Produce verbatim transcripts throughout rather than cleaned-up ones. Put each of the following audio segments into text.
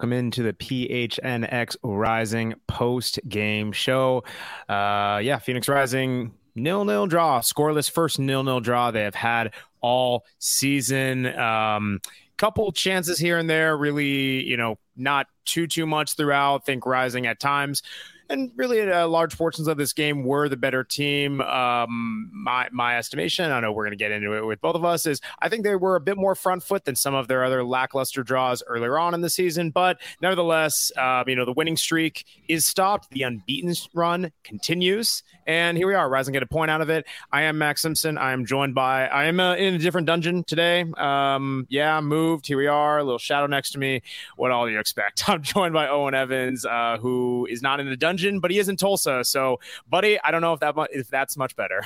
welcome into the P H N X Rising post-game show. Uh, yeah, Phoenix Rising nil-nil draw, scoreless first nil-nil draw they have had all season. Um, couple chances here and there, really, you know, not too, too much throughout. Think Rising at times. And really, uh, large portions of this game were the better team. Um, my my estimation, I know we're going to get into it with both of us, is I think they were a bit more front foot than some of their other lackluster draws earlier on in the season. But nevertheless, um, you know, the winning streak is stopped. The unbeaten run continues. And here we are, Rising get a point out of it. I am Max Simpson. I am joined by, I am uh, in a different dungeon today. Um, yeah, moved. Here we are, a little shadow next to me. What all do you expect? I'm joined by Owen Evans, uh, who is not in a dungeon, but he is in Tulsa. So, buddy, I don't know if that if that's much better.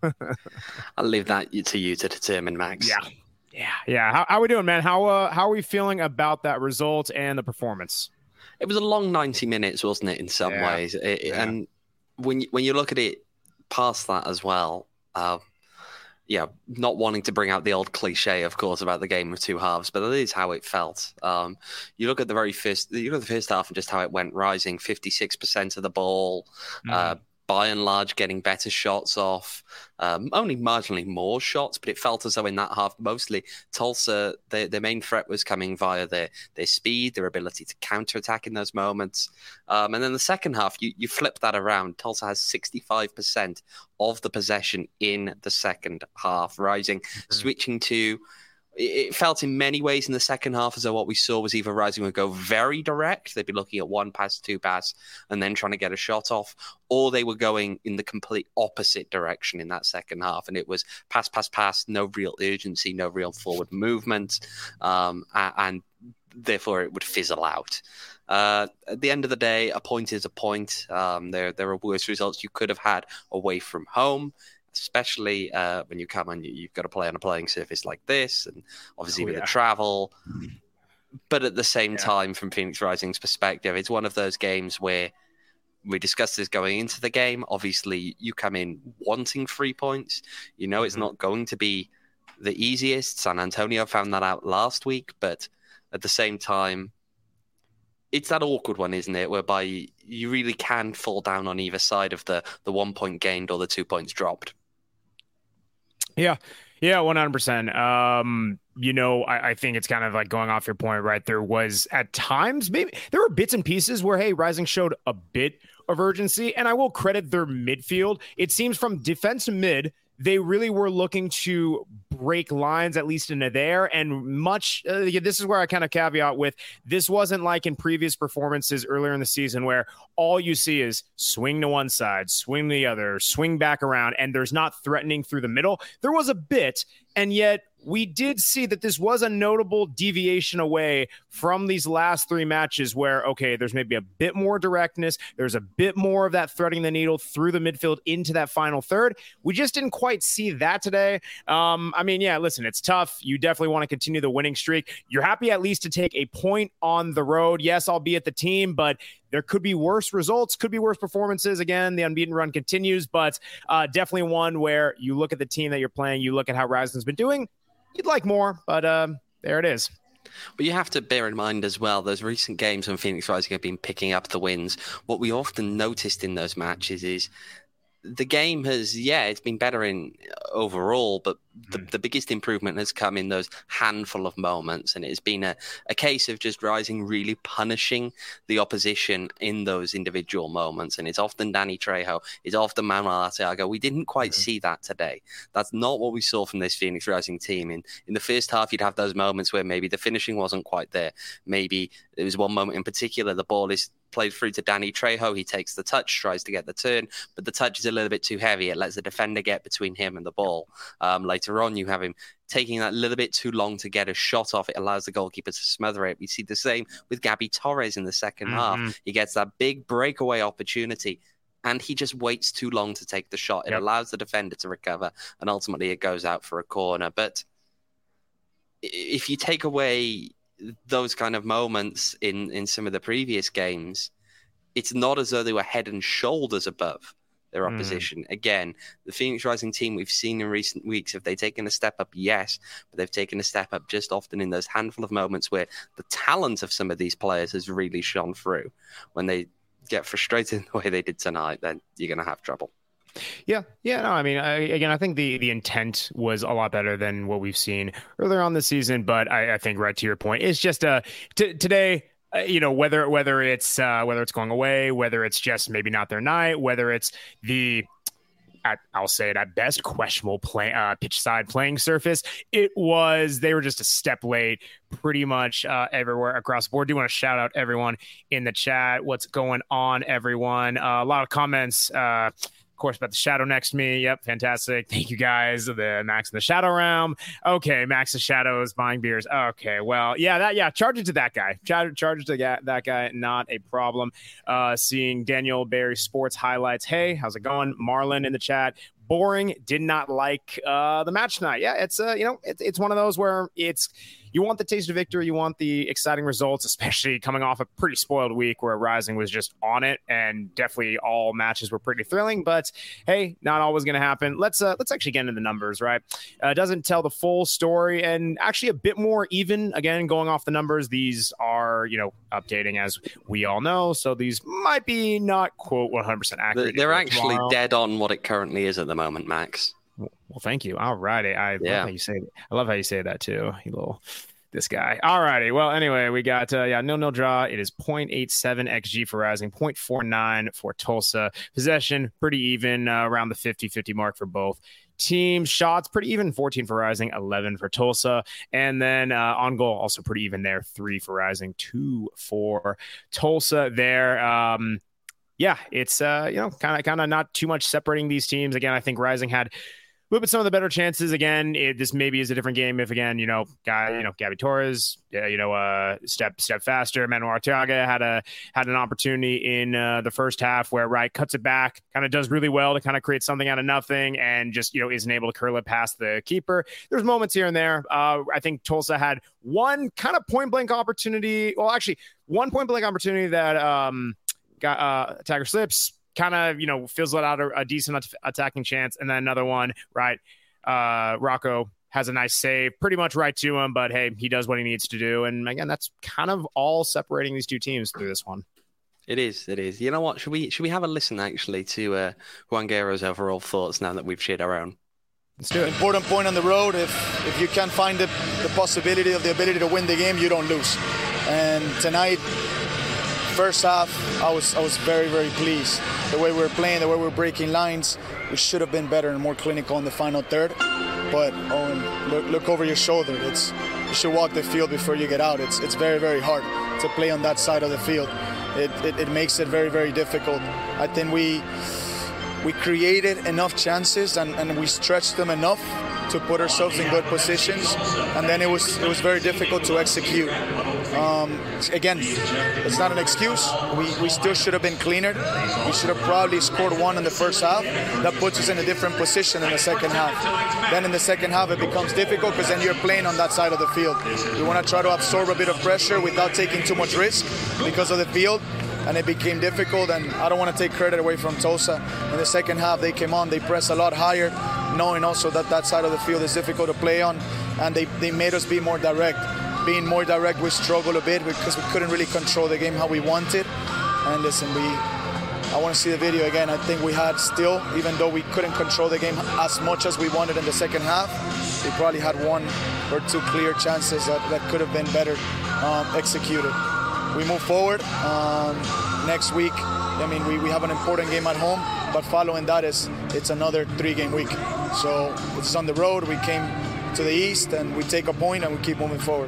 I'll leave that to you to determine, Max. Yeah, yeah, yeah. How, how are we doing, man? How uh, how are we feeling about that result and the performance? It was a long ninety minutes, wasn't it? In some yeah. ways, it, yeah. and when you, when you look at it past that as well, uh, yeah, not wanting to bring out the old cliche, of course, about the game of two halves, but that is how it felt. Um, you look at the very first, you look at the first half and just how it went. Rising fifty-six percent of the ball, mm. uh, by and large, getting better shots off. Um, only marginally more shots, but it felt as though in that half, mostly Tulsa, their, their main threat was coming via their their speed, their ability to counterattack in those moments. Um, and then the second half, you, you flip that around. Tulsa has sixty-five percent of the possession in the second half, Rising, mm-hmm. switching to... It felt in many ways in the second half as though what we saw was either Rising would go very direct, they'd be looking at one pass, two pass, and then trying to get a shot off, or they were going in the complete opposite direction in that second half, and it was pass, pass, pass, no real urgency, no real forward movement, um, and therefore it would fizzle out. Uh, at the end of the day, a point is a point. Um, there, there are worse results you could have had away from home, especially uh, when you come and you, you've got to play on a playing surface like this, and obviously oh, with yeah. the travel. But at the same yeah. time, from Phoenix Rising's perspective, it's one of those games where we discussed this going into the game. Obviously, you come in wanting three points. You know it's mm-hmm. not going to be the easiest. San Antonio found that out last week, but at the same time, it's that awkward one, isn't it, whereby you really can fall down on either side of the, the one point gained or the two points dropped. Yeah, yeah, one hundred percent. Um, you know, I, I think it's kind of like going off your point, right? There was at times, maybe there were bits and pieces where, hey, Rising showed a bit of urgency, and I will credit their midfield. It seems from defense to mid, they really were looking to break lines, at least into there. And much, uh, this is where I kind of caveat with, this wasn't like in previous performances earlier in the season where all you see is swing to one side, swing to the other, swing back around, and there's not threatening through the middle. There was a bit, and yet we did see that this was a notable deviation away from these last three matches where, okay, there's maybe a bit more directness. There's a bit more of that threading the needle through the midfield into that final third. We just didn't quite see that today. Um, I mean, yeah, listen, it's tough. You definitely want to continue the winning streak. You're happy at least to take a point on the road. Yes, albeit the team, but there could be worse results, could be worse performances. Again, the unbeaten run continues, but uh, definitely one where you look at the team that you're playing, you look at how Rising's been doing. You'd like more, but um, there it is. But you have to bear in mind as well, those recent games when Phoenix Rising have been picking up the wins, what we often noticed in those matches is the game has, yeah, it's been better in overall, but the, the biggest improvement has come in those handful of moments. And it's been a, a case of just Rising really punishing the opposition in those individual moments. And it's often Danny Trejo, it's often Manuel Arteaga. We didn't quite mm-hmm. see that today. That's not what we saw from this Phoenix Rising team. In, in the first half, you'd have those moments where maybe the finishing wasn't quite there. Maybe there was one moment in particular, the ball is played through to Danny Trejo. He takes the touch, tries to get the turn, but the touch is a little bit too heavy. It lets the defender get between him and the ball. Um, later on, you have him taking that little bit too long to get a shot off. It allows the goalkeeper to smother it. We see the same with Gabby Torres in the second mm-hmm. half. He gets that big breakaway opportunity, and he just waits too long to take the shot. It yep. allows the defender to recover, and ultimately it goes out for a corner. But if you take away those kind of moments in, in some of the previous games, it's not as though they were head and shoulders above their opposition. Mm. Again, the Phoenix Rising team we've seen in recent weeks, have they taken a step up? Yes, but they've taken a step up just often in those handful of moments where the talent of some of these players has really shone through. When they get frustrated the way they did tonight, then you're going to have trouble. Yeah, yeah, no, I mean, I, again, I think the the intent was a lot better than what we've seen earlier on this season, but I, I think right to your point, it's just uh, t- today, uh, you know, whether whether it's uh, whether it's going away, whether it's just maybe not their night, whether it's the At, I'll say it at best, questionable play, uh, pitch side playing surface. It was, they were just a step late pretty much uh, everywhere across the board. Do want to shout out everyone in the chat. What's going on, everyone? Uh, a lot of comments, uh, of course, about the Shadow next to me. Yep, fantastic. Thank you guys. The Max in the Shadow realm. Okay, Max the Shadows buying beers. Okay, well, yeah, that yeah, charge it to that guy. Charge, charge it to that, that guy. Not a problem. Uh, seeing Daniel Barry Sports highlights. Hey, how's it going? Marlon in the chat. Boring. Did not like uh, the match tonight. Yeah, it's uh, you know, it's it's one of those where it's. You want the taste of victory. You want the exciting results, especially coming off a pretty spoiled week where Rising was just on it, and definitely all matches were pretty thrilling. But hey, not always going to happen. Let's uh, let's actually get into the numbers, right? Uh, doesn't tell the full story, and actually a bit more even. Again, going off the numbers, these are you know updating as we all know, so these might be not quote one hundred percent accurate. They're actually tomorrow. Dead on what it currently is at the moment, Max. Well, thank you. All righty. I yeah. love how you say that. I love how you say that too. You little this guy. All righty. Well, anyway, we got uh, yeah, nil nil draw. It is point eight seven X G for Rising, point four nine for Tulsa. Possession pretty even uh, around the fifty fifty mark for both teams. Shots pretty even, fourteen for Rising, eleven for Tulsa. And then uh, on goal also pretty even there, three for Rising, two for Tulsa there. Um, yeah, it's uh, you know kind of kind of not too much separating these teams. Again, I think Rising had a little bit some of the better chances. Again, it, this maybe is a different game if again, you know, guy, you know, Gabby Torres, uh, you know, uh, step step faster. Manuel Arteaga had a had an opportunity in uh, the first half where Wright cuts it back, kind of does really well to kind of create something out of nothing, and just you know isn't able to curl it past the keeper. There's moments here and there. Uh, I think Tulsa had one kind of point blank opportunity. Well, actually, one point blank opportunity that um, got uh, Tiger slips. Kind of, you know, fizzled out a, a decent at- attacking chance. And then another one, right? Uh, Rocco has a nice save, pretty much right to him, but hey, he does what he needs to do. And again, that's kind of all separating these two teams through this one. It is, it is. You know what? Should we should we have a listen actually to uh, Juan Guerrero's overall thoughts now that we've shared our own? Let's do it. Important point on the road. If if you can't find the, the possibility of the ability to win the game, you don't lose. And tonight, first half, I was I was very, very pleased. The way we were playing, the way we were breaking lines, we should have been better and more clinical in the final third. But Owen, look, look over your shoulder. It's you should walk the field before you get out. It's it's very, very hard to play on that side of the field. It it, it makes it very, very difficult. I think we we created enough chances and, and we stretched them enough to put ourselves in good positions, and then it was it was very difficult to execute. Um, again, it's not an excuse. We we still should have been cleaner. We should have probably scored one in the first half. That puts us in a different position in the second half. Then in the second half, it becomes difficult because then you're playing on that side of the field. You want to try to absorb a bit of pressure without taking too much risk because of the field. And it became difficult, and I don't want to take credit away from Tulsa. In the second half, they came on, they pressed a lot higher, knowing also that that side of the field is difficult to play on, and they, they made us be more direct. Being more direct, we struggled a bit because we couldn't really control the game how we wanted. And listen, we, I want to see the video again. I think we had still, even though we couldn't control the game as much as we wanted in the second half, we probably had one or two clear chances that, that could have been better um, executed. We move forward um, next week. I mean, we, we have an important game at home, but following that is it's another three-game week. So it's on the road. We came to the east, and we take a point, and we keep moving forward.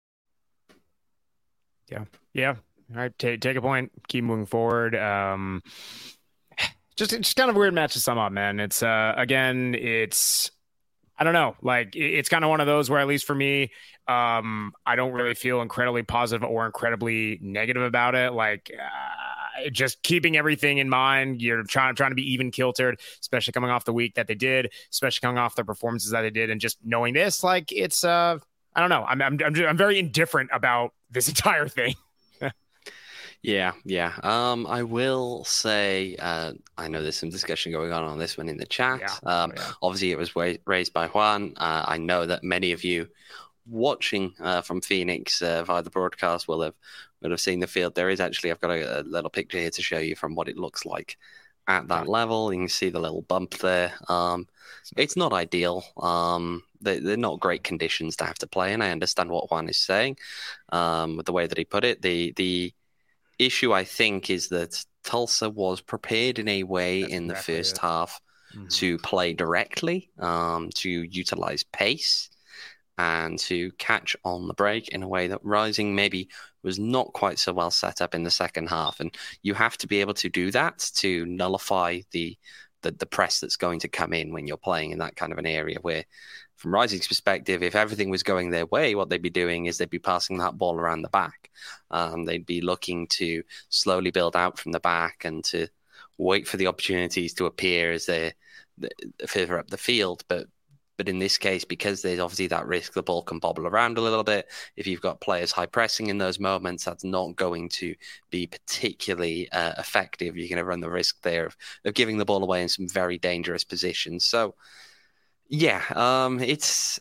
Yeah, yeah. All right, take take a point, keep moving forward. Um, just just kind of a weird match to sum up, man. It's uh, again, it's. I don't know. Like, it's kind of one of those where, at least for me, um, I don't really feel incredibly positive or incredibly negative about it. Like, uh, just keeping everything in mind. You're trying trying to be even kiltered, especially coming off the week that they did, especially coming off the performances that they did, and just knowing this, like, it's uh, I don't know. I'm I'm I'm, I'm very indifferent about this entire thing. Yeah, yeah. Um, I will say, uh, I know there's some discussion going on on this one in the chat. Yeah. Um, Oh, yeah. obviously, it was wa- raised by Juan. Uh, I know that many of you watching uh, from Phoenix uh, via the broadcast will have will have seen the field. There is actually, I've got a, a little picture here to show you from what it looks like at that Okay. level. You can see the little bump there. Um, it's not ideal. Um, they, they're not great conditions to have to play in. I understand what Juan is saying. Um, with the way that he put it, the the issue I think is that Tulsa was prepared in a way That's in the exactly first it. half Mhm. to play directly, um, to utilize pace, and to catch on the break in a way that Rising maybe was not quite so well set up in the second half. And you have to be able to do that to nullify the the, the press that's going to come in when you're playing in that kind of an area where, from Rising's perspective, if everything was going their way, what they'd be doing is they'd be passing that ball around the back. Um, they'd be looking to slowly build out from the back and to wait for the opportunities to appear as they're further up the field. But but in this case, because there's obviously that risk, the ball can bobble around a little bit. If you've got players high pressing in those moments, that's not going to be particularly uh, effective. You're going to run the risk there of, of giving the ball away in some very dangerous positions. So, yeah, um, it's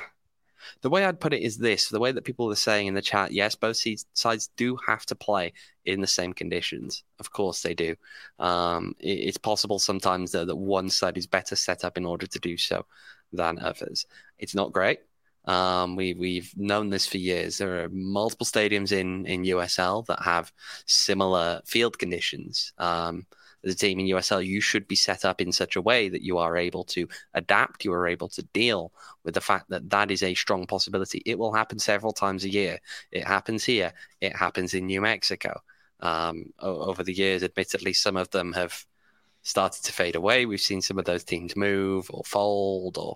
the way I'd put it is this: the way that people are saying in the chat, yes, both sides do have to play in the same conditions. Of course they do. Um, it, it's possible sometimes though, that one side is better set up in order to do so than others. It's not great. Um, we, we've known this for years. There are multiple stadiums in, in U S L that have similar field conditions. Um, as a team in U S L, you should be set up in such a way that you are able to adapt, you are able to deal with the fact that that is a strong possibility. It will happen several times a year. It happens here. It happens in New Mexico. Um, over the years, admittedly, some of them have started to fade away. We've seen some of those teams move or fold, or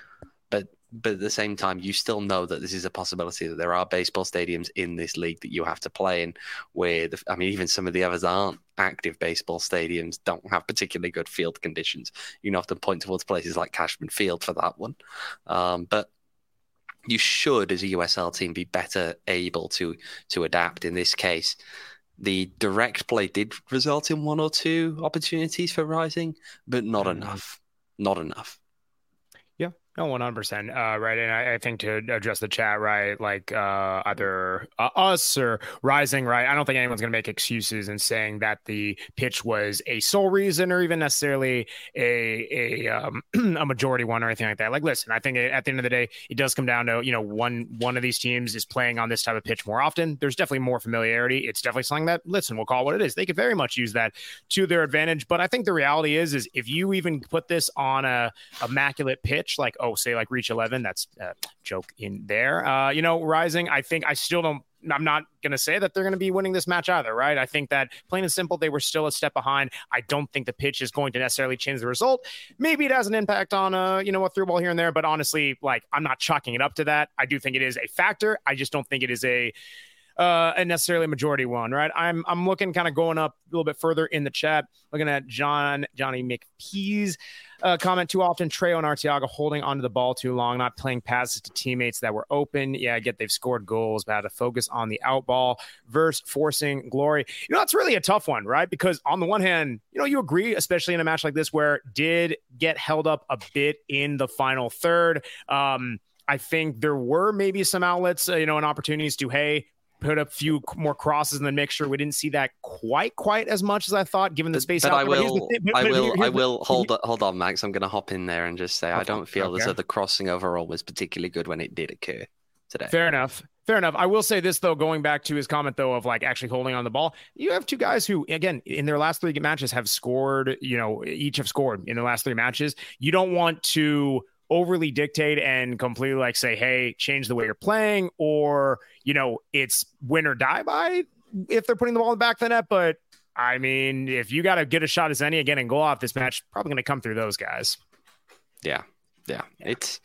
but but at the same time, you still know that this is a possibility, that there are baseball stadiums in this league that you have to play in where, the, I mean, even some of the others aren't active baseball stadiums, don't have particularly good field conditions. You can often point towards places like Cashman Field for that one. Um, but you should, as a U S L team, be better able to to adapt in this case. The direct play did result in one or two opportunities for Rising, but not mm-hmm. enough. Not enough. Yeah, no, one hundred percent. Uh, right. And I, I think to address the chat, right, like uh, either uh, us or Rising, right, I don't think anyone's going to make excuses in saying that the pitch was a sole reason or even necessarily a a, um, a majority one or anything like that. Like, listen, I think at the end of the day, it does come down to, you know, one one of these teams is playing on this type of pitch more often. There's definitely more familiarity. It's definitely something that, listen, we'll call it what it is. They could very much use that to their advantage. But I think the reality is, is if you even put this on a immaculate pitch, like, oh, say like reach eleven, that's a joke in there. Uh, you know, Rising, I think I still don't, I'm not going to say that they're going to be winning this match either, right? I think that plain and simple, they were still a step behind. I don't think the pitch is going to necessarily change the result. Maybe it has an impact on, uh, you know, a through ball here and there, but honestly, like, I'm not chalking it up to that. I do think it is a factor. I just don't think it is a, Uh, a necessarily majority one, right? I'm I'm looking kind of going up a little bit further in the chat, looking at John Johnny McPease uh, comment. Too often, Trejo and Arteaga holding onto the ball too long, not playing passes to teammates that were open. Yeah, I get they've scored goals, but had to focus on the out ball versus forcing glory. You know, it's really a tough one, right? Because on the one hand, you know, you agree, especially in a match like this where it did get held up a bit in the final third. Um, I think there were maybe some outlets, uh, you know, and opportunities to, hey, put a few more crosses in the mixture. We didn't see that quite, quite as much as I thought, given the space. But out I there. will, But I but will, here, I will hold, hold on, Max. I'm going to hop in there and just say okay. I don't feel okay. as though the crossing overall was particularly good when it did occur today. Fair enough. Fair enough. I will say this, though, going back to his comment, though, of like actually holding on the ball. You have two guys who, again, in their last three matches have scored, you know, each have scored in the last three matches. You don't want to overly dictate and completely like say, hey, change the way you're playing, or, you know, it's win or die by if they're putting the ball in the back of the net. But I mean, if you got to get a shot as any again and go off this match, probably going to come through those guys. Yeah. Yeah. yeah. It's,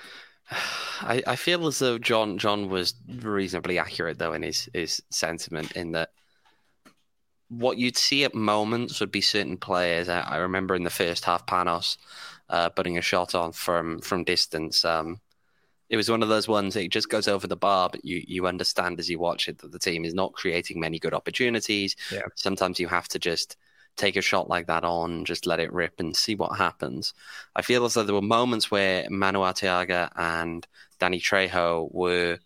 I, I feel as though John, John was reasonably accurate though in his, his sentiment in that what you'd see at moments would be certain players. I, I remember in the first half, Panos, Uh, putting a shot on from from distance, um, it was one of those ones that just goes over the bar, but you, you understand as you watch it that the team is not creating many good opportunities. Yeah. Sometimes you have to just take a shot like that on, just let it rip and see what happens. I feel as though there were moments where Manu Arteaga and Danny Trejo were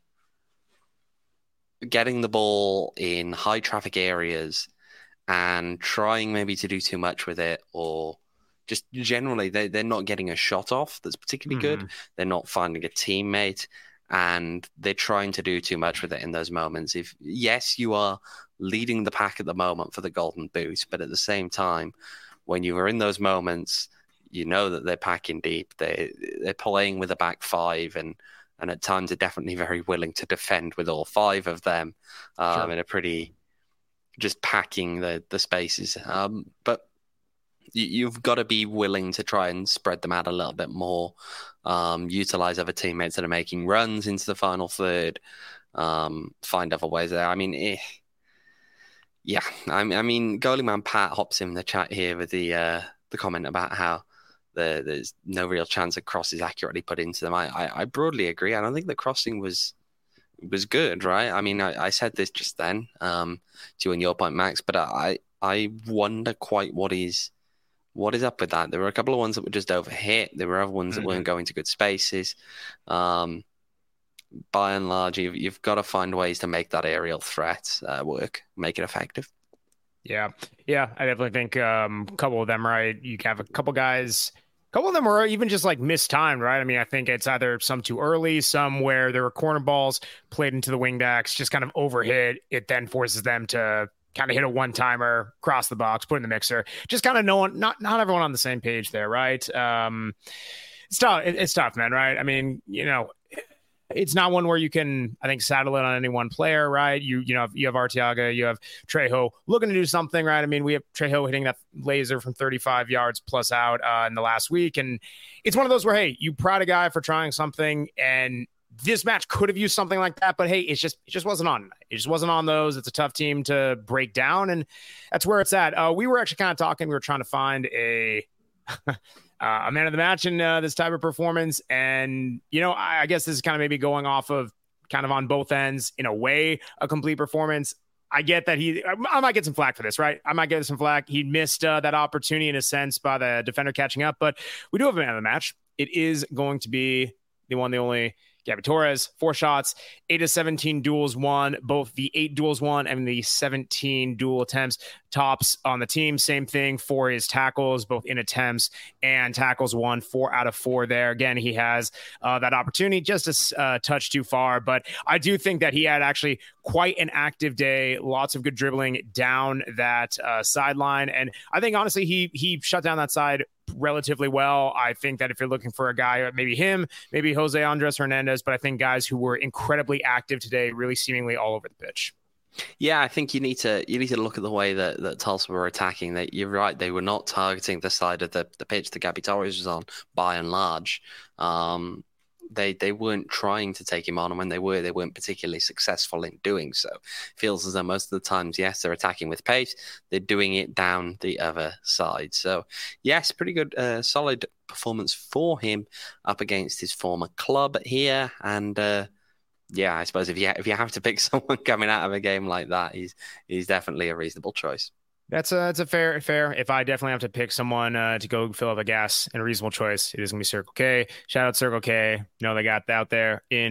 getting the ball in high traffic areas and trying maybe to do too much with it, or just generally they, they're not getting a shot off that's particularly mm-hmm. good. They're not finding a teammate, and they're trying to do too much with it in those moments. If yes, you are leading the pack at the moment for the Golden Boot, but at the same time, when you are in those moments, you know that they're packing deep. They they're playing with a back five, and and at times are definitely very willing to defend with all five of them, um, sure. in a pretty just packing the the spaces. Um, but you, you've got to be willing to try and spread them out a little bit more, um, utilize other teammates that are making runs into the final third, um, find other ways there. I mean, eh, yeah, I, I mean, goalie man Pat hops in the chat here with the uh, the comment about how the, there's no real chance a cross is accurately put into them. I, I, I broadly agree. I don't think the crossing was was good, right? I mean, I, I said this just then um, to you and your point, Max, but I I wonder quite what is what is up with that. There were a couple of ones that were just overhit. There were other ones mm-hmm. that weren't going to good spaces. Um, by and large, you've, you've got to find ways to make that aerial threat uh, work, make it effective. Yeah, yeah, I definitely think um, a couple of them, right? You have a couple guys, a couple of them were even just like mistimed, right? I mean, I think it's either some too early, some where there were corner balls played into the wing backs, just kind of overhit. It then forces them to kind of hit a one-timer, cross the box, put in the mixer. Just kind of no one, not not everyone on the same page there, right? Um, it's tough. It, it's tough, man, right? I mean, you know, it's not one where you can, I think, saddle it on any one player, right? You you know, you have Arteaga, you have Trejo looking to do something, right? I mean, we have Trejo hitting that laser from thirty-five yards plus out uh, in the last week. And it's one of those where, hey, you prod a guy for trying something, and this match could have used something like that, but hey, it's just, it just wasn't on. It just wasn't on those. It's a tough team to break down, and that's where it's at. Uh, we were actually kind of talking, we were trying to find a... Uh, a man of the match in uh, this type of performance. And, you know, I, I guess this is kind of maybe going off of kind of on both ends, in a way, a complete performance. I get that he, I, I might get some flack for this, right? I might get some flack. He missed uh, that opportunity in a sense by the defender catching up, but we do have a man of the match. It is going to be the one, the only Gabby Torres, four shots, eight of seventeen duels won, both the eight duels won and the seventeen duel attempts tops on the team. Same thing for his tackles, both in attempts and tackles won, four out of four there. Again, he has uh, that opportunity just a uh, touch too far, but I do think that he had actually quite an active day, lots of good dribbling down that uh, sideline. And I think honestly, he, he shut down that side relatively well. I think that if you're looking for a guy, maybe him, maybe Jose Andres Hernandez, but I think guys who were incredibly active today, really seemingly all over the pitch. Yeah, I think you need to you need to look at the way that, that Tulsa were attacking. That you're right, they were not targeting the side of the, the pitch that Gabby Torres was on, by and large. Um, they they weren't trying to take him on, and when they were, they weren't particularly successful in doing so. Feels as though most of the times, yes, they're attacking with pace, they're doing it down the other side. So, yes, pretty good, uh, solid performance for him up against his former club here. And uh, yeah, I suppose if you if you have to pick someone coming out of a game like that, he's he's definitely a reasonable choice. That's a that's a fair fair. If I definitely have to pick someone uh, to go fill up a gas and a reasonable choice, it is gonna be Circle K. Shout out Circle K. You know they got out there in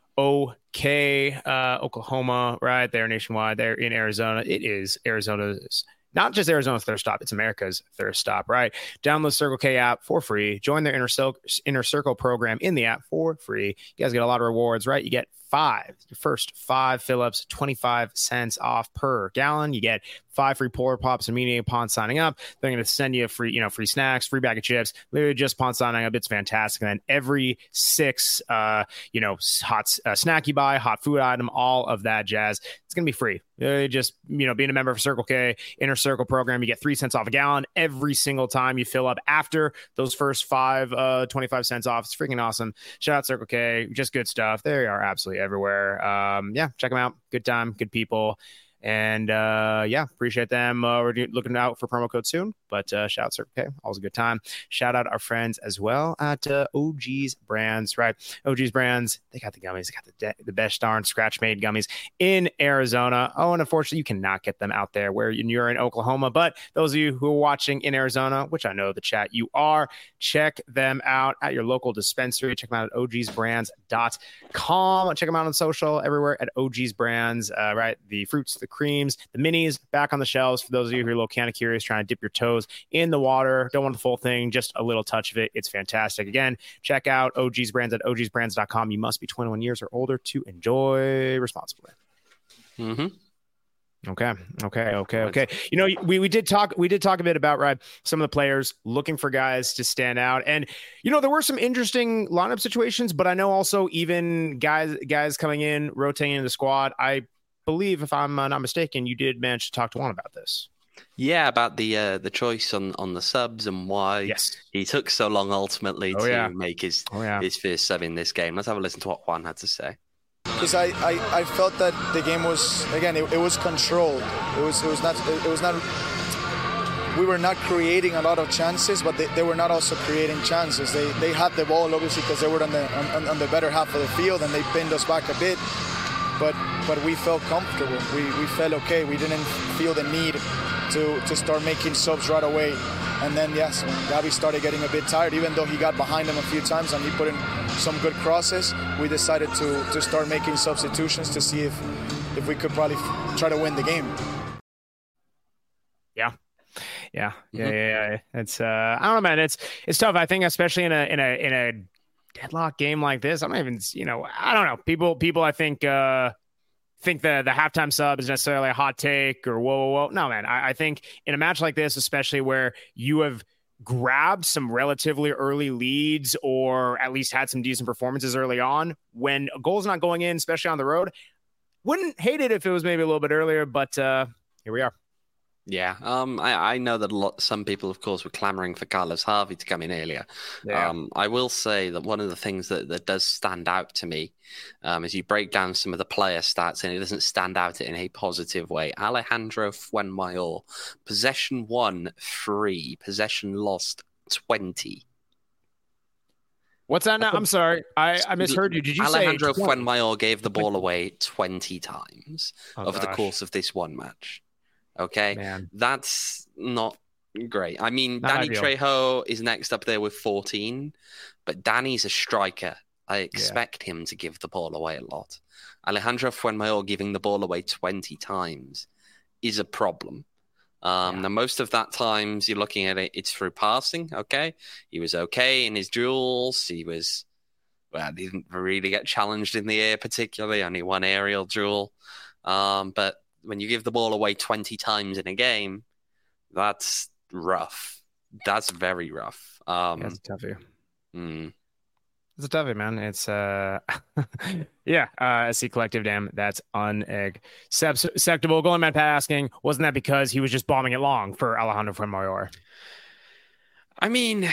OK, uh, Oklahoma, right? They're nationwide. They're in Arizona. It is Arizona's, not just Arizona's thirst stop. It's America's thirst stop, right? Download the Circle K app for free. Join their inner circle, inner circle program in the app for free. You guys get a lot of rewards, right? You get five, your first five fill-ups, twenty-five cents off per gallon. You get five free Polar Pops immediately upon signing up. They're going to send you a free, you know, free snacks, free bag of chips, literally just upon signing up. It's fantastic. And then every six, uh, you know, hot uh, snack you buy, hot food item, all of that jazz, it's going to be free. Uh, just, you know, being a member of Circle K Inner Circle program, you get three cents off a gallon every single time you fill up after those first five, uh, twenty-five cents off. It's freaking awesome. Shout out Circle K. Just good stuff. They are absolutely everywhere. Um, yeah, check them out. Good time, good people. And uh, yeah, appreciate them. Uh, we're do- looking out for promo code soon, but uh, shout out Circle K, always a good time. Shout out our friends as well at uh, O G's Brands, right? O G's Brands, they got the gummies, they got the de- the best darn scratch made gummies in Arizona. Oh, and unfortunately, you cannot get them out there where you're in Oklahoma. But those of you who are watching in Arizona, which I know the chat you are, check them out at your local dispensary. Check them out at O Gs brands dot com. Check them out on social everywhere at O G's Brands, uh, right? The fruits, the creams, the minis back on the shelves for those of you who are a little kind of curious, trying to dip your toes in the water. Don't want the full thing, just a little touch of it. It's fantastic. Again, check out O G's Brands at O Gs brands dot com. You must be twenty-one years or older to enjoy responsibly. Mm-hmm. Okay. Okay. Okay. Okay. You know, we, we did talk, we did talk a bit about, right, some of the players looking for guys to stand out. And, you know, there were some interesting lineup situations, but I know also even guys, guys coming in, rotating in the squad. I believe, if I'm uh, not mistaken, you did manage to talk to Juan about this. Yeah, about the uh, the choice on, on the subs and why yes. he took so long ultimately oh, to yeah. make his, oh, yeah. his first sub in this game. Let's have a listen to what Juan had to say. Because I, I, I felt that the game was, again, it, it was controlled. It was it was not it was not. We were not creating a lot of chances, but they, they were not also creating chances. They they had the ball obviously because they were on the on, on the better half of the field and they pinned us back a bit. But but we felt comfortable. We we felt okay. We didn't feel the need to to start making subs right away. And then yes, when Gabi started getting a bit tired, even though he got behind him a few times and he put in some good crosses, we decided to to start making substitutions to see if if we could probably f- try to win the game. Yeah. Yeah. Yeah. Mm-hmm. yeah, yeah. It's uh I don't know, man. It's it's tough. I think especially in a in a in a deadlock game like this. I'm not even, you know, I don't know. People people I think uh think the the halftime sub is necessarily a hot take or whoa, whoa, whoa. No, man. I, I think in a match like this, especially where you have grabbed some relatively early leads or at least had some decent performances early on, when a goal's not going in, especially on the road, wouldn't hate it if it was maybe a little bit earlier, but uh, here we are. Yeah, um, I, I know that a lot. Some people, of course, were clamoring for Carlos Harvey to come in earlier. Yeah. Um, I will say that one of the things that, that does stand out to me um, is you break down some of the player stats, and it doesn't stand out in a positive way. Alejandro Fuenmayor, possession won three, possession lost twenty. What's that now? I'm sorry, I, I misheard you. Did you Alejandro say Alejandro Fuenmayor gave the ball away twenty times oh, over gosh. the course of this one match? Okay, Man. That's not great. I mean, Not Danny ideal. Trejo is next up there with fourteen, but Danny's a striker. I expect yeah. him to give the ball away a lot. Alejandro Fuenmayor giving the ball away twenty times is a problem. Um, yeah. Now, most of that times you're looking at it, it's through passing. Okay, he was okay in his duels. He was, well, he didn't really get challenged in the air particularly. Only one aerial duel, um, but when you give the ball away twenty times in a game, that's rough. That's very rough. Um, That's a toughie. Mm. It's a toughie, man. It's, uh, yeah, uh, S C Collective, damn, that's unacceptable. Golden Man Pat asking, wasn't that because he was just bombing it long for Alejandro Fuenmayor? I mean,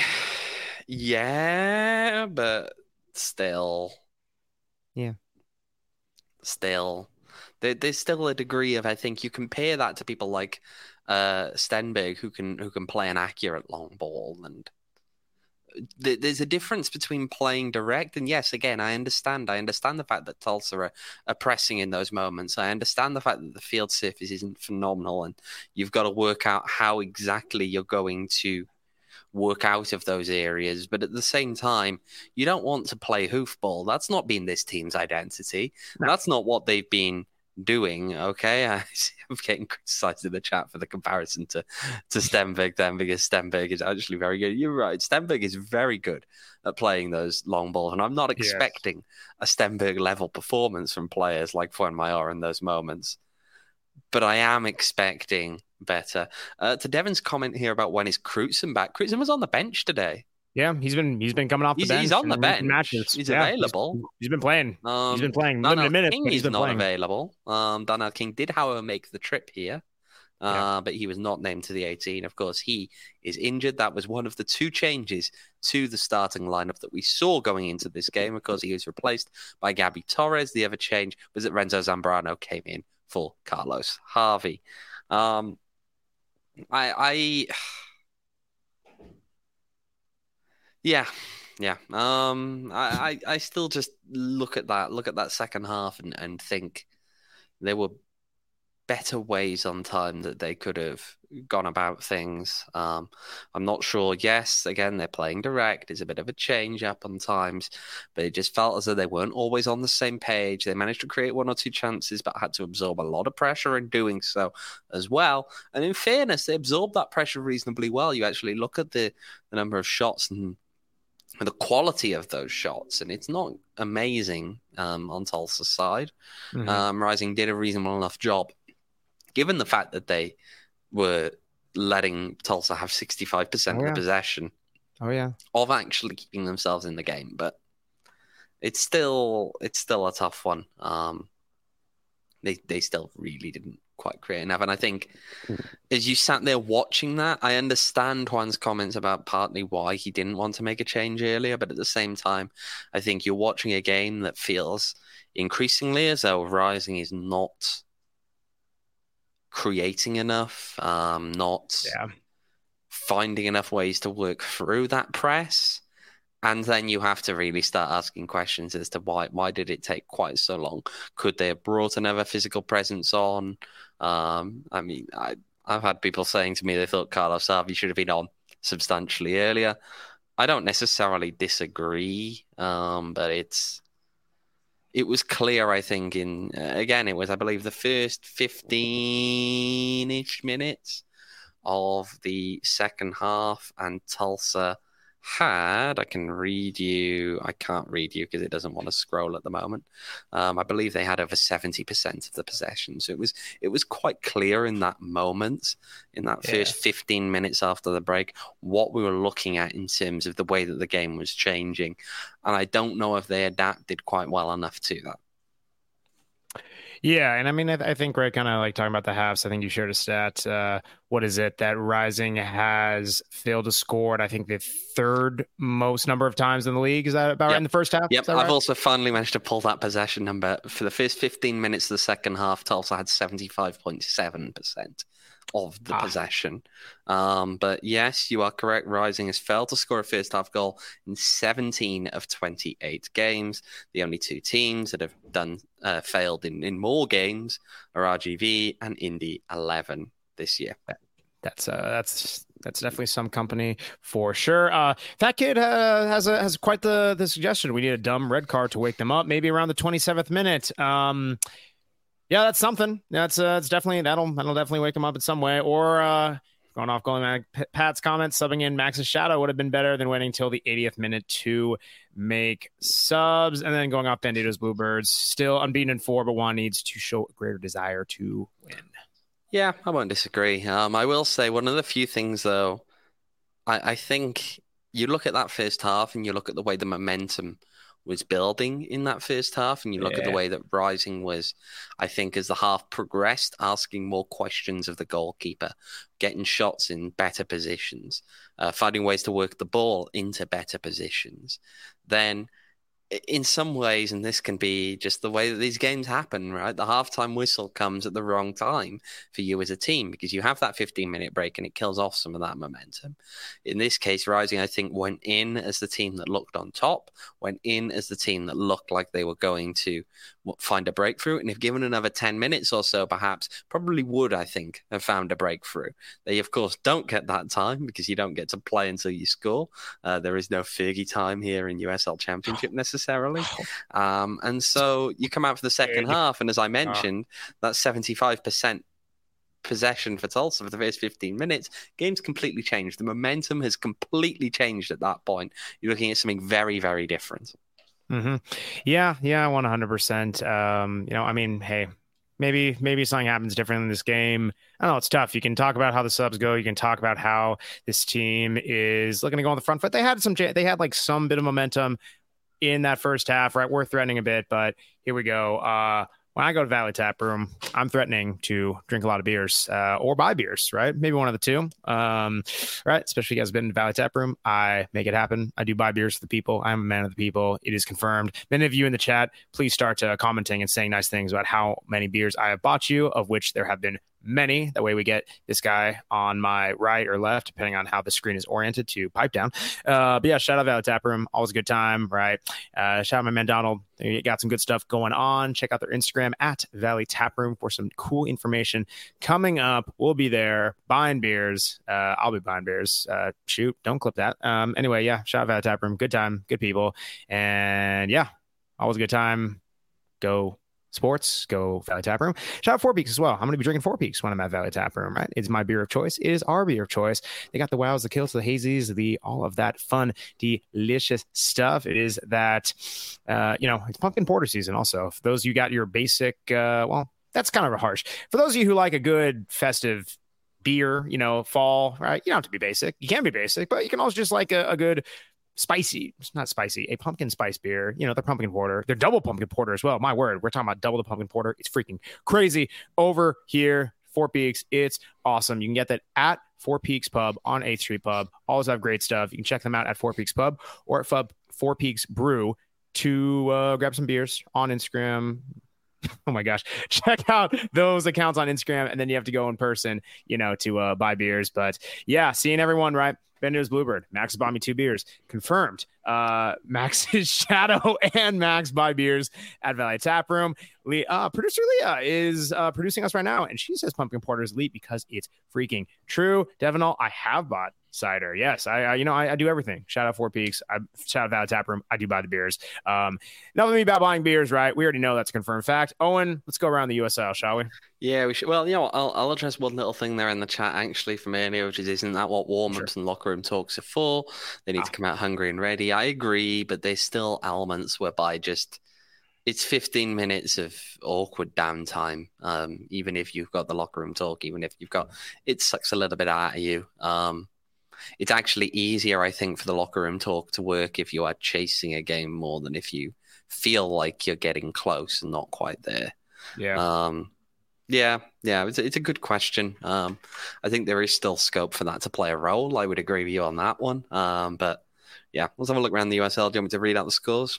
yeah, but still. Yeah. Still. There's still a degree of, I think, you compare that to people like uh, Stenberg who can who can play an accurate long ball, and th- there's a difference between playing direct and yes, again, I understand. I understand the fact that Tulsa are, are pressing in those moments. I understand the fact that the field surface isn't phenomenal, and you've got to work out how exactly you're going to work out of those areas. But at the same time, you don't want to play hoofball. That's not been this team's identity. No. That's not what they've been doing. Okay, I, I'm getting criticized in the chat for the comparison to to Stenberg then, because Stenberg is actually very good. You're right, Stenberg is very good at playing those long balls, and I'm not expecting yes. a Stenberg level performance from players like Fuenmayor in those moments, but I am expecting better. Uh, to Devin's comment here about when is Crutzen back, Crutzen was on the bench today. Yeah, he's been he's been coming off the he's, bench. He's on the bench. Matches. He's yeah, available. He's, he's been playing. Um, he's been playing. Daniel Limited minutes. King But he's is been not playing. available. Um, Daniel King did, however, make the trip here. Uh, yeah. But he was not named to the eighteen. Of course, he is injured. That was one of the two changes to the starting lineup that we saw going into this game. Of course, he was replaced by Gabby Torres. The other change was that Renzo Zambrano came in for Carlos Harvey. Um, I, I, yeah, yeah. Um, I, I, I still just look at that, look at that second half, and, and think there were better ways on time that they could have gone about things. Um, I'm not sure. Yes, again, they're playing direct. It's a bit of a change up on times, but it just felt as though they weren't always on the same page. They managed to create one or two chances, but had to absorb a lot of pressure in doing so as well. And in fairness, they absorbed that pressure reasonably well. You actually look at the, the number of shots and the quality of those shots, and it's not amazing um, on Tulsa's side. Mm-hmm. Um, Rising did a reasonable enough job, given the fact that they were letting Tulsa have sixty-five percent oh, yeah. of the possession oh, yeah. of actually keeping themselves in the game. But it's still it's still a tough one. Um, they they still really didn't quite create enough. And I think as you sat there watching that, I understand Juan's comments about partly why he didn't want to make a change earlier. But at the same time, I think you're watching a game that feels increasingly as though Rising is not creating enough, um, not yeah. finding enough ways to work through that press. And then you have to really start asking questions as to why why did it take quite so long? Could they have brought another physical presence on? Um, I mean, I, I've had people saying to me they thought Carlos Harvey should have been on substantially earlier. I don't necessarily disagree, um, but it's it was clear, I think, in, uh, again, it was, I believe, the first fifteen-ish minutes of the second half, and Tulsa had, I can read you, I can't read you because it doesn't want to scroll at the moment. Um, I believe they had over seventy percent of the possession. So it was it was quite clear in that moment, in that yeah. first fifteen minutes after the break, what we were looking at in terms of the way that the game was changing. And I don't know if they adapted quite well enough to that. Yeah, and I mean, I, th- I think, right, kind of like talking about the halves, I think you shared a stat. Uh, what is it that Rising has failed to score? I think the third most number of times in the league. Is that about yep. right in the first half? Yep, I've right? also finally managed to pull that possession number. For the first fifteen minutes of the second half, Tulsa had seventy-five point seven percent of the ah. possession. Um, but yes, you are correct. Rising has failed to score a first half goal in seventeen of twenty-eight games. The only two teams that have done uh, failed in, in more games are R G V and Indy eleven this year. That's uh, that's that's definitely some company for sure. Uh, Fat Kid uh, has a, has quite the the suggestion. We need a dumb red card to wake them up, maybe around the twenty-seventh minute. Um, Yeah, that's something. That's uh, it's definitely that'll that'll definitely wake him up in some way. Or uh, going off going back, Pat's comments, subbing in Max's Shadow would have been better than waiting until the eightieth minute to make subs. And then going off Bandito's Bluebirds, still unbeaten in four, but one needs to show a greater desire to win. Yeah, I won't disagree. Um, I will say one of the few things though, I, I think you look at that first half and you look at the way the momentum was building in that first half, and you look yeah. at the way that Rising was, I think, as the half progressed, asking more questions of the goalkeeper, getting shots in better positions, uh, finding ways to work the ball into better positions, then in some ways, and this can be just the way that these games happen, right? The halftime whistle comes at the wrong time for you as a team because you have that fifteen-minute break and it kills off some of that momentum. In this case, Rising, I think, went in as the team that looked on top, went in as the team that looked like they were going to find a breakthrough, and if given another ten minutes or so, perhaps, probably would, I think, have found a breakthrough. They, of course, don't get that time because you don't get to play until you score. Uh, there is no Fergie time here in U S L Championship necessarily. Um, and so you come out for the second half, and as I mentioned, that seventy-five percent possession for Tulsa for the first fifteen minutes, game's completely changed. The momentum has completely changed at that point. You're looking at something very, very different. Mm-hmm. Yeah, yeah, one hundred percent. Um, you know, I mean, hey, maybe maybe something happens different in this game. I don't know, it's tough. You can talk about how the subs go. You can talk about how this team is looking to go on the front foot. They had some, they had like some bit of momentum in that first half, right? We're threatening a bit, but here we go. Uh, when I go to Valley Tap Room, I'm threatening to drink a lot of beers uh, or buy beers, right? Maybe one of the two, um, right? Especially if you guys have been to Valley Tap Room. I make it happen. I do buy beers for the people. I'm a man of the people. It is confirmed. Many of you in the chat, please start uh, commenting and saying nice things about how many beers I have bought you, of which there have been many. That way we get this guy on my right or left, depending on how the screen is oriented, to pipe down. Uh, but yeah, shout out Valley Tap Room. Always a good time, right? Uh, shout out my man Donald. They got some good stuff going on. Check out their Instagram at Valley Tap Room for some cool information coming up. We'll be there buying beers. Uh, I'll be buying beers. Uh, shoot, don't clip that. Um, anyway, yeah, shout out Valley Tap Room. Good time, good people. And yeah, always a good time. Go sports, go Valley Tap Room. Shout out Four Peaks as well. I'm going to be drinking Four Peaks when I'm at Valley Tap Room, right? It's my beer of choice. It is our beer of choice. They got the wows, the kills, the hazies, the all of that fun, delicious stuff. It is that, uh, you know, it's pumpkin porter season also. For those of you got your basic, uh, well, that's kind of harsh. For those of you who like a good festive beer, you know, fall, right? You don't have to be basic. You can be basic, but you can also just like a, a good spicy, it's not spicy, a pumpkin spice beer. You know, they're pumpkin porter. They're double pumpkin porter as well. My word, we're talking about double the pumpkin porter. It's freaking crazy over here. Four Peaks, it's awesome. You can get that at Four Peaks Pub on eighth Street Pub. Always have great stuff. You can check them out at Four Peaks Pub or at Fub Four Peaks Brew to uh, grab some beers on Instagram. Oh my gosh. Check out those accounts on Instagram, and then you have to go in person, you know, to uh, buy beers. But yeah, seeing everyone, right? Ben News Bluebird. Max bought me two beers. Confirmed. Uh, Max's Shadow and Max buy beers at Valley Tap Room. Le- uh, producer Leah is uh, producing us right now, and she says pumpkin porter is elite because it's freaking true. Devinol, I have bought cider. Yes, I, I you know, I, I do everything. Shout out Four Peaks. I shout out Valley Tap Room. I do buy the beers. Um, nothing about buying beers, right? We already know that's a confirmed fact. Owen, let's go around the U S L, shall we? Yeah, we should. Well, you know, I'll, I'll address one little thing there in the chat actually from earlier, which is, isn't that what warm-ups sure. and locker room talks are for? They need ah. to come out hungry and ready. I agree, but there's still elements whereby just it's fifteen minutes of awkward downtime. Um, even if you've got the locker room talk, even if you've got, it sucks a little bit out of you. Um, it's actually easier, I think, for the locker room talk to work if you are chasing a game more than if you feel like you're getting close and not quite there. Yeah. Um, yeah, yeah, it's a, it's a good question. Um, I think there is still scope for that to play a role. I would agree with you on that one. Um, but yeah, let's have a look around the U S L. Do you want me to read out the scores?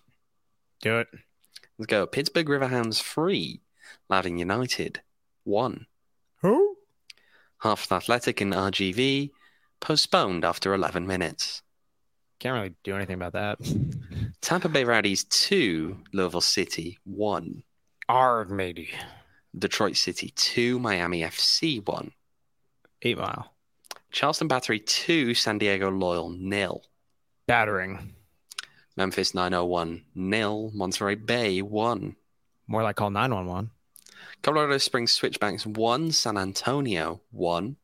Do it. Let's go. Pittsburgh Riverhounds three, Loudoun United one. Who? Hartford Athletic and R G V postponed after eleven minutes. Can't really do anything about that. Tampa Bay Rowdies two, Louisville City one. Arg, matey. Detroit City two, Miami F C one. Eight Mile. Charleston Battery two, San Diego Loyal nil. Battering. Memphis nine oh one nil, Monterey Bay one. More like call nine one one. Colorado Springs Switchbacks one, San Antonio one.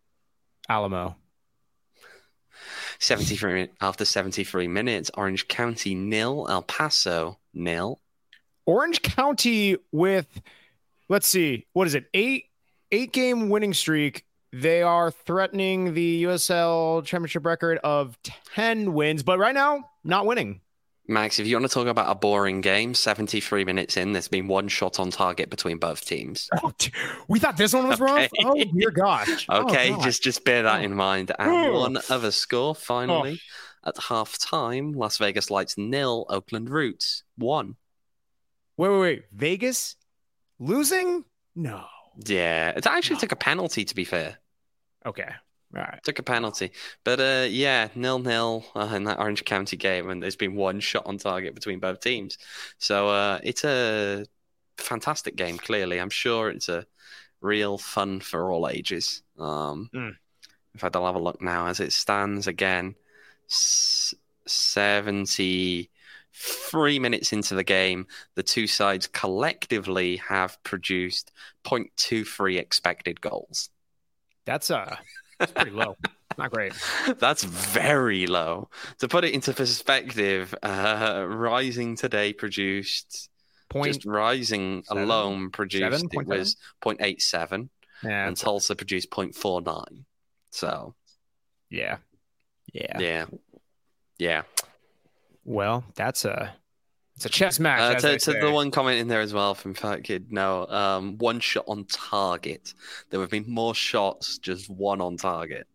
Alamo. seventy-three after seventy-three minutes, Orange County nil, El Paso nil. Orange County with, let's see, what is it? Eight eight game winning streak. They are threatening the U S L championship record of ten wins, but right now not winning. Max, if you want to talk about a boring game, seventy-three minutes in, there's been one shot on target between both teams. Oh, we thought this one was okay. Rough? Oh, dear gosh. Okay, oh, just just bear that oh. in mind. And oh. one other score, finally, oh. at half-time, Las Vegas Lights nil, Oakland Roots one. Wait, wait, wait. Vegas losing? No. Yeah, it actually no. took a penalty, to be fair. Okay. All right. Took a penalty. But uh, yeah, nil-nil uh, in that Orange County game, and there's been one shot on target between both teams. So uh, it's a fantastic game, clearly. I'm sure it's a real fun for all ages. Um, mm. In fact, I'll have a look now as it stands again. S- seventy-three minutes into the game, the two sides collectively have produced point two three expected goals. That's uh That's pretty low. Not great. That's very low. To put it into perspective, uh, Rising today produced, point just Rising seven? alone produced, seven? it was zero point eight seven, yeah, and Tulsa produced zero point four nine. So, yeah. Yeah. Yeah. Yeah. Well, that's a It's a chess match. Uh, as to they to say. the one comment in there as well from Fat Kid, no, um, one shot on target. There have been more shots, just one on target.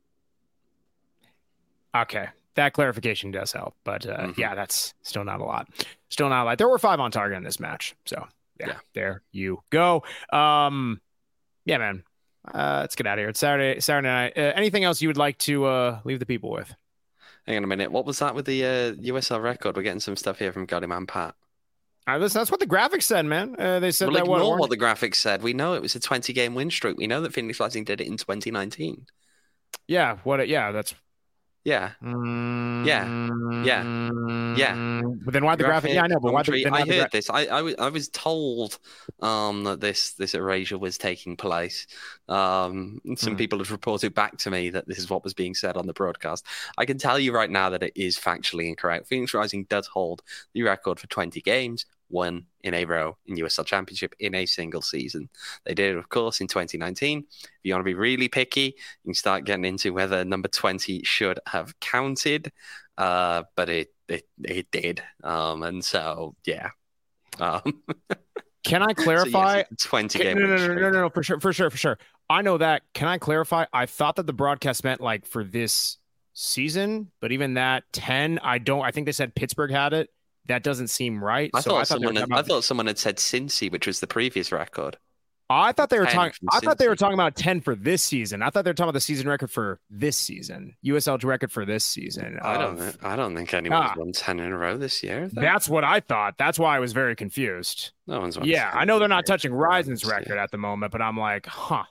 Okay, that clarification does help, but uh, Mhm. yeah, that's still not a lot. Still not a lot. There were five on target in this match, so yeah, Yeah. there you go. Um, yeah, man. Uh, let's get out of here. It's Saturday. Saturday night. Uh, anything else you would like to uh, leave the people with? Hang on a minute. What was that with the uh, U S L record? We're getting some stuff here from Godyman Pat. Uh, listen, that's what the graphics said, man. Uh, they said Well, that ignore what, what, Orange- the graphics said. We know it was a twenty-game win streak. We know that Phoenix Rising did it in twenty nineteen. Yeah, what? Yeah, that's. Yeah. Mm, Yeah. Yeah. But then why the graphic? Yeah, I know, but why the, commentary- then why I the heard gra- this. I, I, was, I was told um, that this this erasure was taking place. Um, some Hmm. people had reported back to me that this is what was being said on the broadcast. I can tell you right now that it is factually incorrect. Phoenix Rising does hold the record for twenty games, one in a row in U S L Championship in a single season. They did it, of course, in twenty nineteen. If you want to be really picky, you can start getting into whether number twenty should have counted, uh, but it it, it did. Um, and so, yeah. Um, Can I so, clarify? yes, it's a twenty Can- game no, no, win no, no, streak. no, no, no, for sure, for sure, for sure. I know that. Can I clarify? I thought that the broadcast meant like for this season, but even that ten, I don't. I think they said Pittsburgh had it. That doesn't seem right. I so thought I thought someone they were had, talking I about, thought someone had said Cincy, which was the previous record. I thought they were ten talking. from I thought they were Cincy. talking about ten for this season. I thought they were talking about the season record for this season, U S L record for this season. I don't. of- know. I don't think anyone's Ah. won ten in a row this year. though. That's what I thought. That's why I was very confused. No one's won. Yeah, 10 I know they're in a not row touching this year. Risen's record at the moment, but I'm like, huh.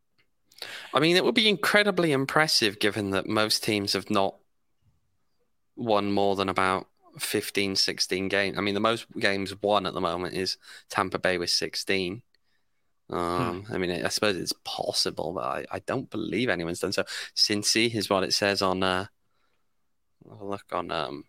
I mean, it would be incredibly impressive given that most teams have not won more than about fifteen, sixteen games. I mean, the most games won at the moment is Tampa Bay with sixteen. Um, I mean, I suppose it's possible, but I, I don't believe anyone's done so. Cincy is what it says on. Uh, have a look on. Um,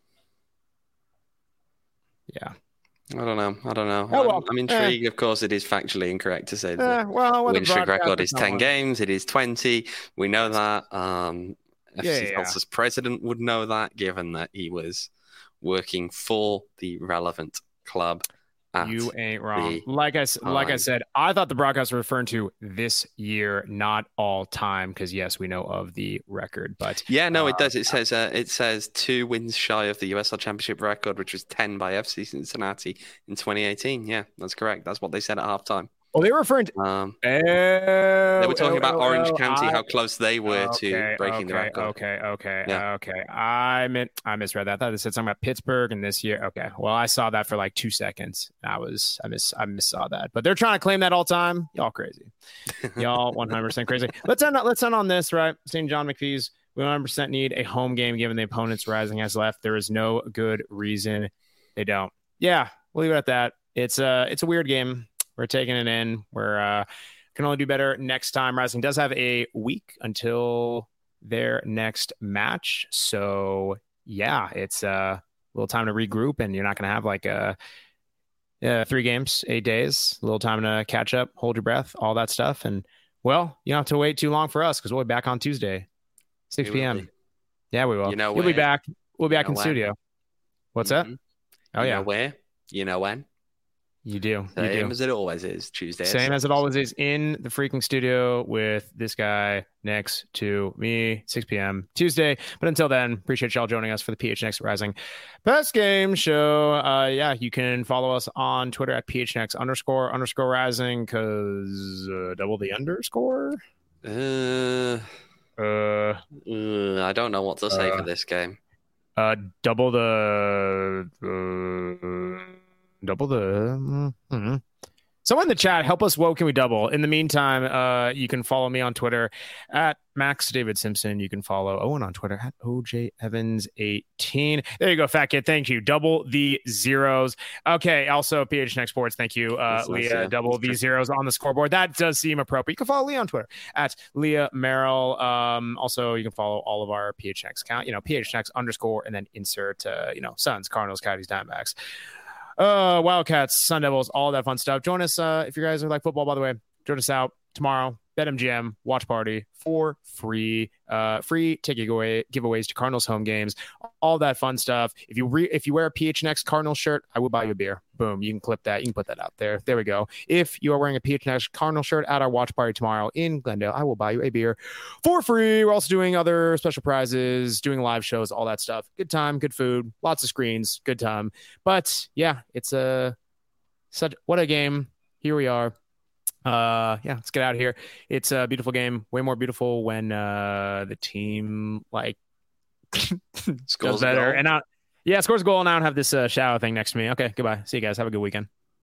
Yeah. I don't know. I don't know. Oh, well, I'm, I'm intrigued. Of course, it is factually incorrect to say that. Eh, well, when the win streak record broadcasters is don't ten want- games. It is twenty. We know that. Um, F C Yeah, yeah, Tulsa's president would know that, given that he was working for the relevant club. At You ain't wrong. the Like I s- like I time. said, I thought the broadcast were referring to this year, not all time, because yes, we know of the record, but yeah, no, it Uh, does. It says uh, it says two wins shy of the U S L Championship record, which was ten by F C Cincinnati in twenty eighteen. Yeah, that's correct. That's what they said at halftime. well, they were referring to. Um, Oh, they were talking oh, about oh, Orange oh, County, I- how close they were to Okay, breaking the okay, record. Okay, okay, Yeah. okay. I meant I misread that. I thought it said something about Pittsburgh and this year. Okay, well, I saw that for like two seconds. I was I miss I miss saw that, but they're trying to claim that all time. Y'all crazy. Y'all one hundred percent crazy. Let's end. Let's end on this, right? Saint John McPhee's. We one hundred percent need a home game given the opponents Rising has left. There is no good reason they don't. Yeah, we'll leave it at that. It's a it's a weird game. We're taking it in. We're uh, can only do better next time. Rising does have a week until their next match, so yeah, it's uh, a little time to regroup, and you're not going to have like a. Uh, three games, eight days, a little time to catch up, hold your breath, all that stuff. And well, you don't have to wait too long for us because we'll be back on Tuesday, six We will p.m. be. Yeah, we will. You know You'll be where. back. We'll be You back know in when. studio. What's that? Mhm. Oh, You yeah. know where? You know when? You do. You Same do. as it always is. Tuesday. at Same six. as it always is in the freaking studio with this guy next to me, six p.m. Tuesday. But until then, appreciate y'all joining us for the P H N X Rising Best Game Show. Uh, yeah, you can follow us on Twitter at P H N X underscore underscore Rising because uh, double the underscore. Uh, Uh, uh, I don't know what to say Uh, for this game. uh, double the uh, double the. mm-hmm. Someone in the chat, help us. What can we double? In the meantime, uh, you can follow me on Twitter at Max David Simpson. You can follow Owen on Twitter at O J Evans eighteen. There you go, Fat Kid. Thank you. Double the zeros. Okay. Also, P H N X Sports. Thank you, uh, That's nice, Leah. yeah. Double That's the true. zeros on the scoreboard. That does seem appropriate. You can follow Leah on Twitter at Leah Merrill. Um, also, you can follow all of our P H N X account. You know, P H N X underscore and then insert. Uh, you know, Suns, Cardinals, Coyotes, Diamondbacks. Uh, Wildcats, Sun Devils, all that fun stuff. Join us uh, if you guys are like football, by the way. Join us out tomorrow, BetMGM watch party for free, uh, free ticket giveaway giveaways to Cardinals home games, all that fun stuff. If you re- if you wear a P H N X Cardinals shirt, I will buy you a beer. Boom, you can clip that. You can put that out there. There we go. If you are wearing a P H N X Cardinals shirt at our watch party tomorrow in Glendale, I will buy you a beer for free. We're also doing other special prizes, doing live shows, all that stuff. Good time, good food, lots of screens, good time. But yeah, it's a such what a game. Here we are. Uh, yeah, let's get out of here. It's a beautiful game. Way more beautiful when uh the team like Scores does better. a goal. And now, yeah, scores a goal. And I don't have this uh, shower thing next to me. Okay, goodbye. See you guys. Have a good weekend.